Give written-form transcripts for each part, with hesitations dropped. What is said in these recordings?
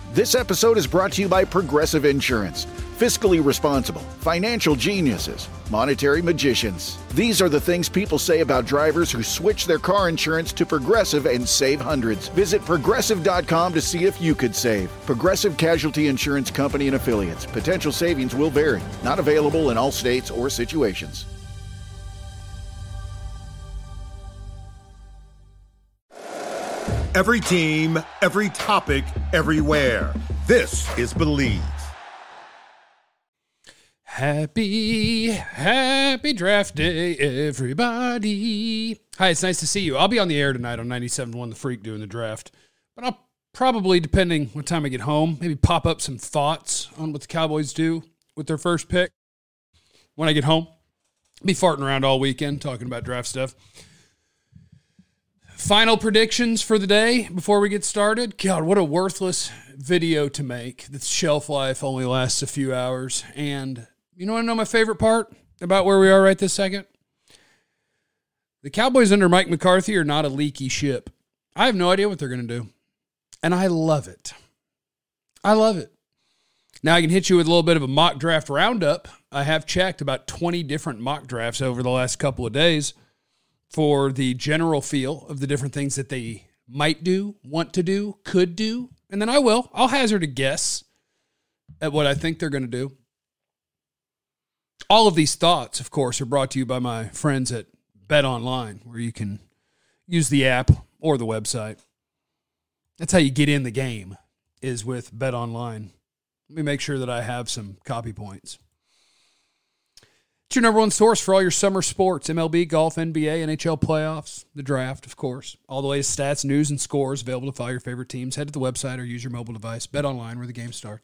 This episode is brought to you by Progressive Insurance. Fiscally responsible, financial geniuses, monetary magicians. These are the things people say about drivers who switch their car insurance to Progressive and save hundreds. Visit Progressive.com to see if you could save. Progressive Casualty Insurance Company and Affiliates. Potential savings will vary. Not available in all states or situations. Every team, every topic, everywhere. This is Believe. Happy draft day, everybody. Hi, it's nice to see you. I'll be on the air tonight on 97.1 The Freak doing the draft. But I'll probably, depending what time I get home, maybe pop up some thoughts on what the Cowboys do with their first pick when I get home. Be farting around all weekend talking about draft stuff. Final predictions for the day before we get started. God, what a worthless video to make. The shelf life only lasts a few hours. And you want to know my favorite part about where we are right this second? The Cowboys under Mike McCarthy are not a leaky ship. I have no idea what they're going to do. And I love it. I love it. Now I can hit you with a little bit of a mock draft roundup. I have checked about 20 different mock drafts over the last couple of days for the general feel of the different things that they might do, want to do, could do. And then I'll hazard a guess at what I think they're going to do. All of these thoughts, of course, are brought to you by my friends at Bet Online, where you can use the app or the website. That's how you get in the game, is with Bet Online. Let me make sure that I have some copy points. It's your number one source for all your summer sports, MLB, golf, NBA, NHL playoffs, the draft, of course. All the latest stats, news, and scores available to follow your favorite teams. Head to the website or use your mobile device. Bet Online, where the game starts.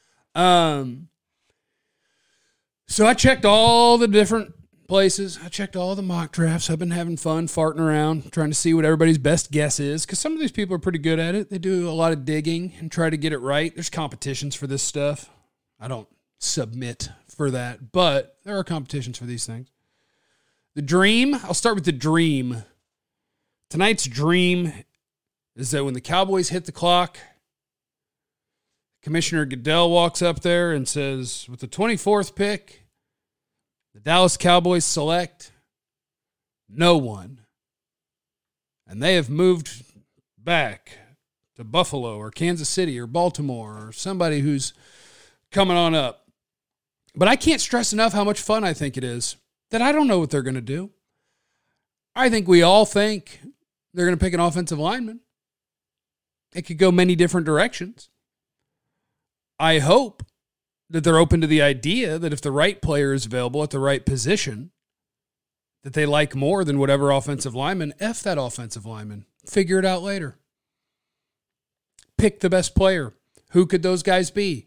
So I checked all the different places. I checked all the mock drafts. I've been having fun farting around, trying to see what everybody's best guess is, because some of these people are pretty good at it. They do a lot of digging and try to get it right. There's competitions for this stuff. I don't submit for that, but there are competitions for these things. The dream, I'll start with the dream. Tonight's dream is that when the Cowboys hit the clock, Commissioner Goodell walks up there and says, with the 24th pick, the Dallas Cowboys select no one. And they have moved back to Buffalo or Kansas City or Baltimore or somebody who's coming on up. But I can't stress enough how much fun I think it is that I don't know what they're going to do. I think we all think they're going to pick an offensive lineman. It could go many different directions. I hope that they're open to the idea that if the right player is available at the right position, that they like more than whatever offensive lineman, F that offensive lineman. Figure it out later. Pick the best player. Who could those guys be?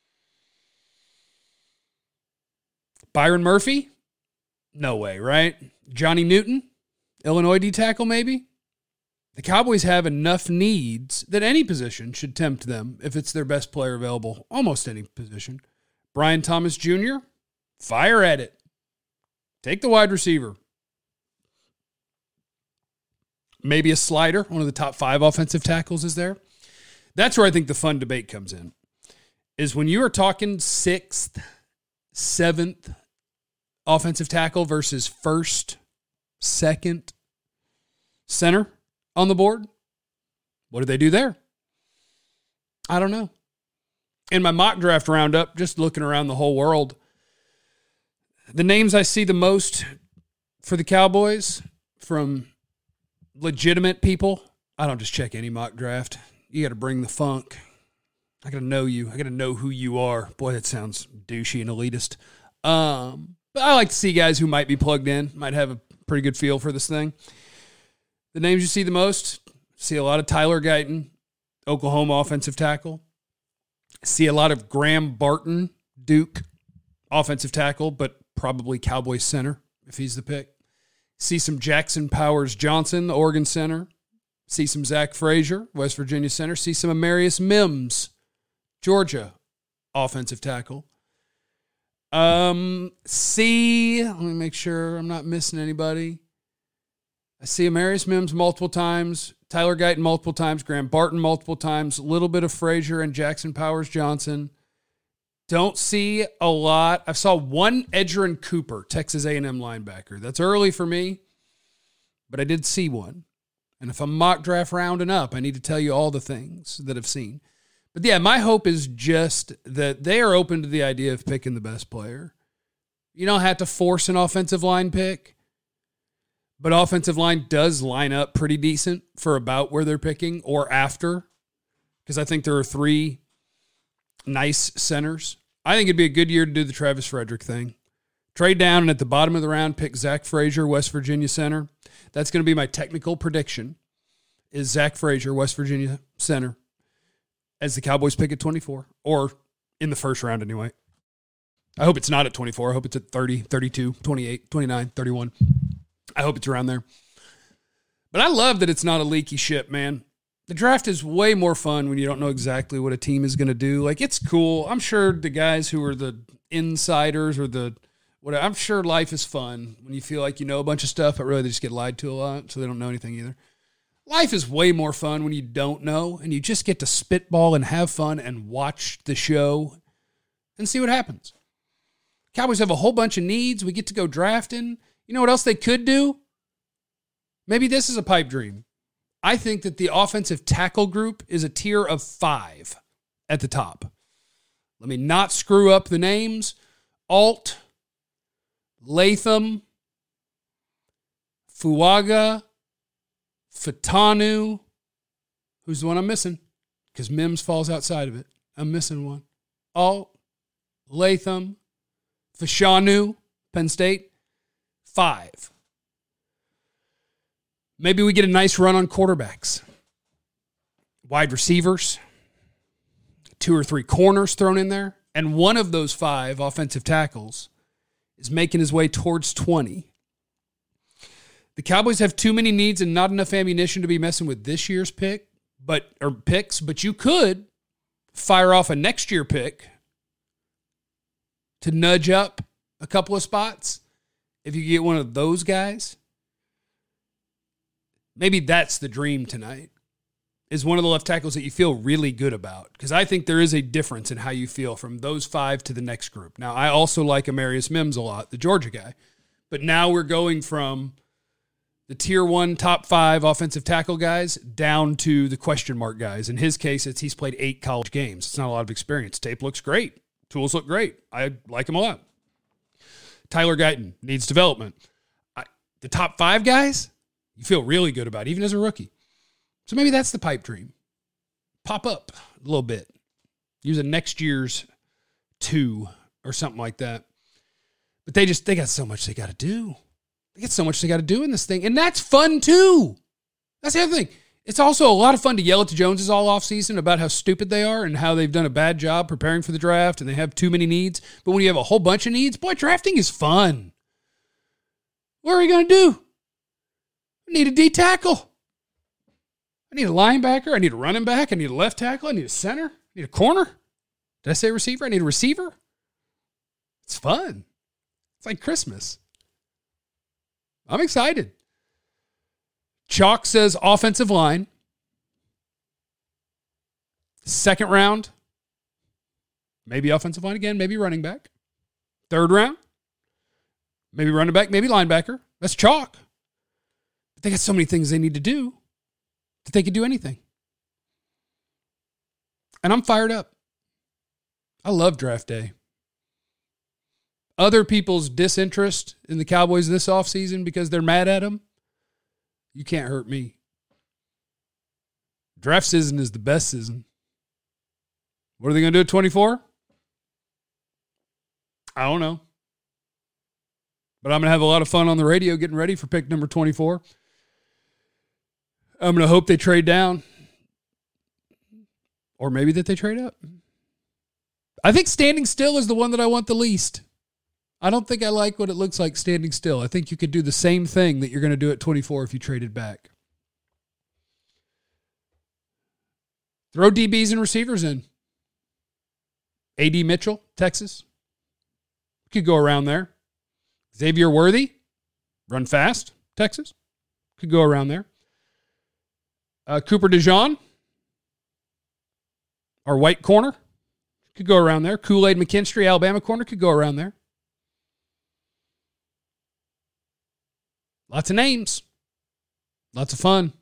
Byron Murphy? No way, right? Johnny Newton? Illinois D-tackle, maybe? The Cowboys have enough needs that any position should tempt them if it's their best player available. Almost any position. Brian Thomas Jr., fire at it. Take the wide receiver. Maybe a slider, one of the top 5 offensive tackles is there. That's where I think the fun debate comes in, is when you are talking 6th, 7th offensive tackle versus 1st, 2nd center on the board. What do they do there? I don't know. In my mock draft roundup, just looking around the whole world, the names I see the most for the Cowboys from legitimate people, I don't just check any mock draft. You got to bring the funk. I got to know you. I got to know who you are. Boy, that sounds douchey and elitist. But I like to see guys who might be plugged in, might have a pretty good feel for this thing. The names you see the most, see a lot of Tyler Guyton, Oklahoma offensive tackle. See a lot of Graham Barton, Duke offensive tackle, but probably Cowboys center if he's the pick. See some Jackson Powers Johnson, Oregon center. See some Zach Frazier, West Virginia center. See some Amarius Mims, Georgia offensive tackle. Let me make sure I'm not missing anybody. I see Amarius Mims multiple times. Tyler Guyton multiple times, Graham Barton multiple times, a little bit of Frazier and Jackson Powers Johnson. Don't see a lot. I saw one Edgerrin Cooper, Texas A&M linebacker. That's early for me, but I did see one. And if I'm mock draft rounding up, I need to tell you all the things that I've seen. But yeah, my hope is just that they are open to the idea of picking the best player. You don't have to force an offensive line pick, but offensive line does line up pretty decent for about where they're picking or after, because I think there are 3 nice centers. I think it'd be a good year to do the Travis Frederick thing. Trade down and at the bottom of the round, pick Zach Frazier, West Virginia center. That's going to be my technical prediction, is Zach Frazier, West Virginia center, as the Cowboys pick at 24, or in the first round anyway. I hope it's not at 24. I hope it's at 30, 32, 28, 29, 31. I hope it's around there. But I love that it's not a leaky ship, man. The draft is way more fun when you don't know exactly what a team is going to do. Like, it's cool. I'm sure the guys who are the insiders or the whatever, I'm sure life is fun when you feel like you know a bunch of stuff, but really they just get lied to a lot, so they don't know anything either. Life is way more fun when you don't know, and you just get to spitball and have fun and watch the show and see what happens. Cowboys have a whole bunch of needs. We get to go drafting. You know what else they could do? Maybe this is a pipe dream. I think that the offensive tackle group is a tier of 5 at the top. Let me not screw up the names. Alt, Latham, Fuaga, Fatanu. Who's the one I'm missing? Because Mims falls outside of it. I'm missing one. Alt, Latham, Fashanu, Penn State. 5. Maybe we get a nice run on quarterbacks. Wide receivers. 2 or 3 corners thrown in there. And one of those 5 offensive tackles is making his way towards 20. The Cowboys have too many needs and not enough ammunition to be messing with this year's picks, but you could fire off a next year pick to nudge up a couple of spots. If you get one of those guys, maybe that's the dream tonight, is one of the left tackles that you feel really good about. Because I think there is a difference in how you feel from those 5 to the next group. Now, I also like Amarius Mims a lot, the Georgia guy. But now we're going from the tier 1 top 5 offensive tackle guys down to the question mark guys. In his case, he's played 8 college games. It's not a lot of experience. Tape looks great. Tools look great. I like him a lot. Tyler Guyton needs development. The top 5 guys, you feel really good about, even as a rookie. So maybe that's the pipe dream. Pop up a little bit. Use a next year's 2 or something like that. But they got so much they got to do. They got so much they got to do in this thing. And that's fun too. That's the other thing. It's also a lot of fun to yell at the Joneses all offseason about how stupid they are and how they've done a bad job preparing for the draft and they have too many needs. But when you have a whole bunch of needs, boy, drafting is fun. What are we going to do? I need a D tackle. I need a linebacker. I need a running back. I need a left tackle. I need a center. I need a corner. Did I say receiver? I need a receiver. It's fun. It's like Christmas. I'm excited. Chalk says offensive line. 2nd round, maybe offensive line again, maybe running back. 3rd round, maybe running back, maybe linebacker. That's chalk. But they got so many things they need to do that they could do anything. And I'm fired up. I love draft day. Other people's disinterest in the Cowboys this offseason because they're mad at them, you can't hurt me. Draft season is the best season. What are they going to do at 24? I don't know. But I'm going to have a lot of fun on the radio getting ready for pick number 24. I'm going to hope they trade down. Or maybe that they trade up. I think standing still is the one that I want the least. I don't think I like what it looks like standing still. I think you could do the same thing that you're going to do at 24 if you traded back. Throw DBs and receivers in. A.D. Mitchell, Texas. Could go around there. Xavier Worthy, run fast, Texas. Could go around there. Cooper DeJean, our white corner, could go around there. Kool-Aid McKinstry, Alabama corner, could go around there. Lots of names. Lots of fun.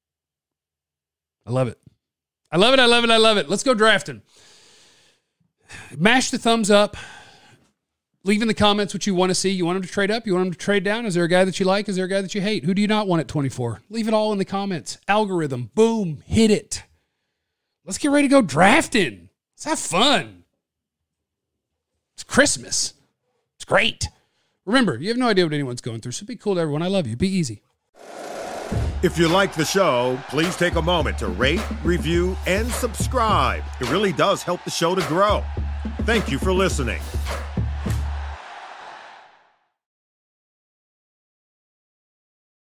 I love it. I love it. I love it. I love it. Let's go drafting. Mash the thumbs up. Leave in the comments what you want to see. You want him to trade up? You want him to trade down? Is there a guy that you like? Is there a guy that you hate? Who do you not want at 24? Leave it all in the comments. Algorithm. Boom. Hit it. Let's get ready to go drafting. Let's have fun. It's Christmas. It's great. Remember, you have no idea what anyone's going through, so be cool to everyone. I love you. Be easy. If you like the show, please take a moment to rate, review, and subscribe. It really does help the show to grow. Thank you for listening.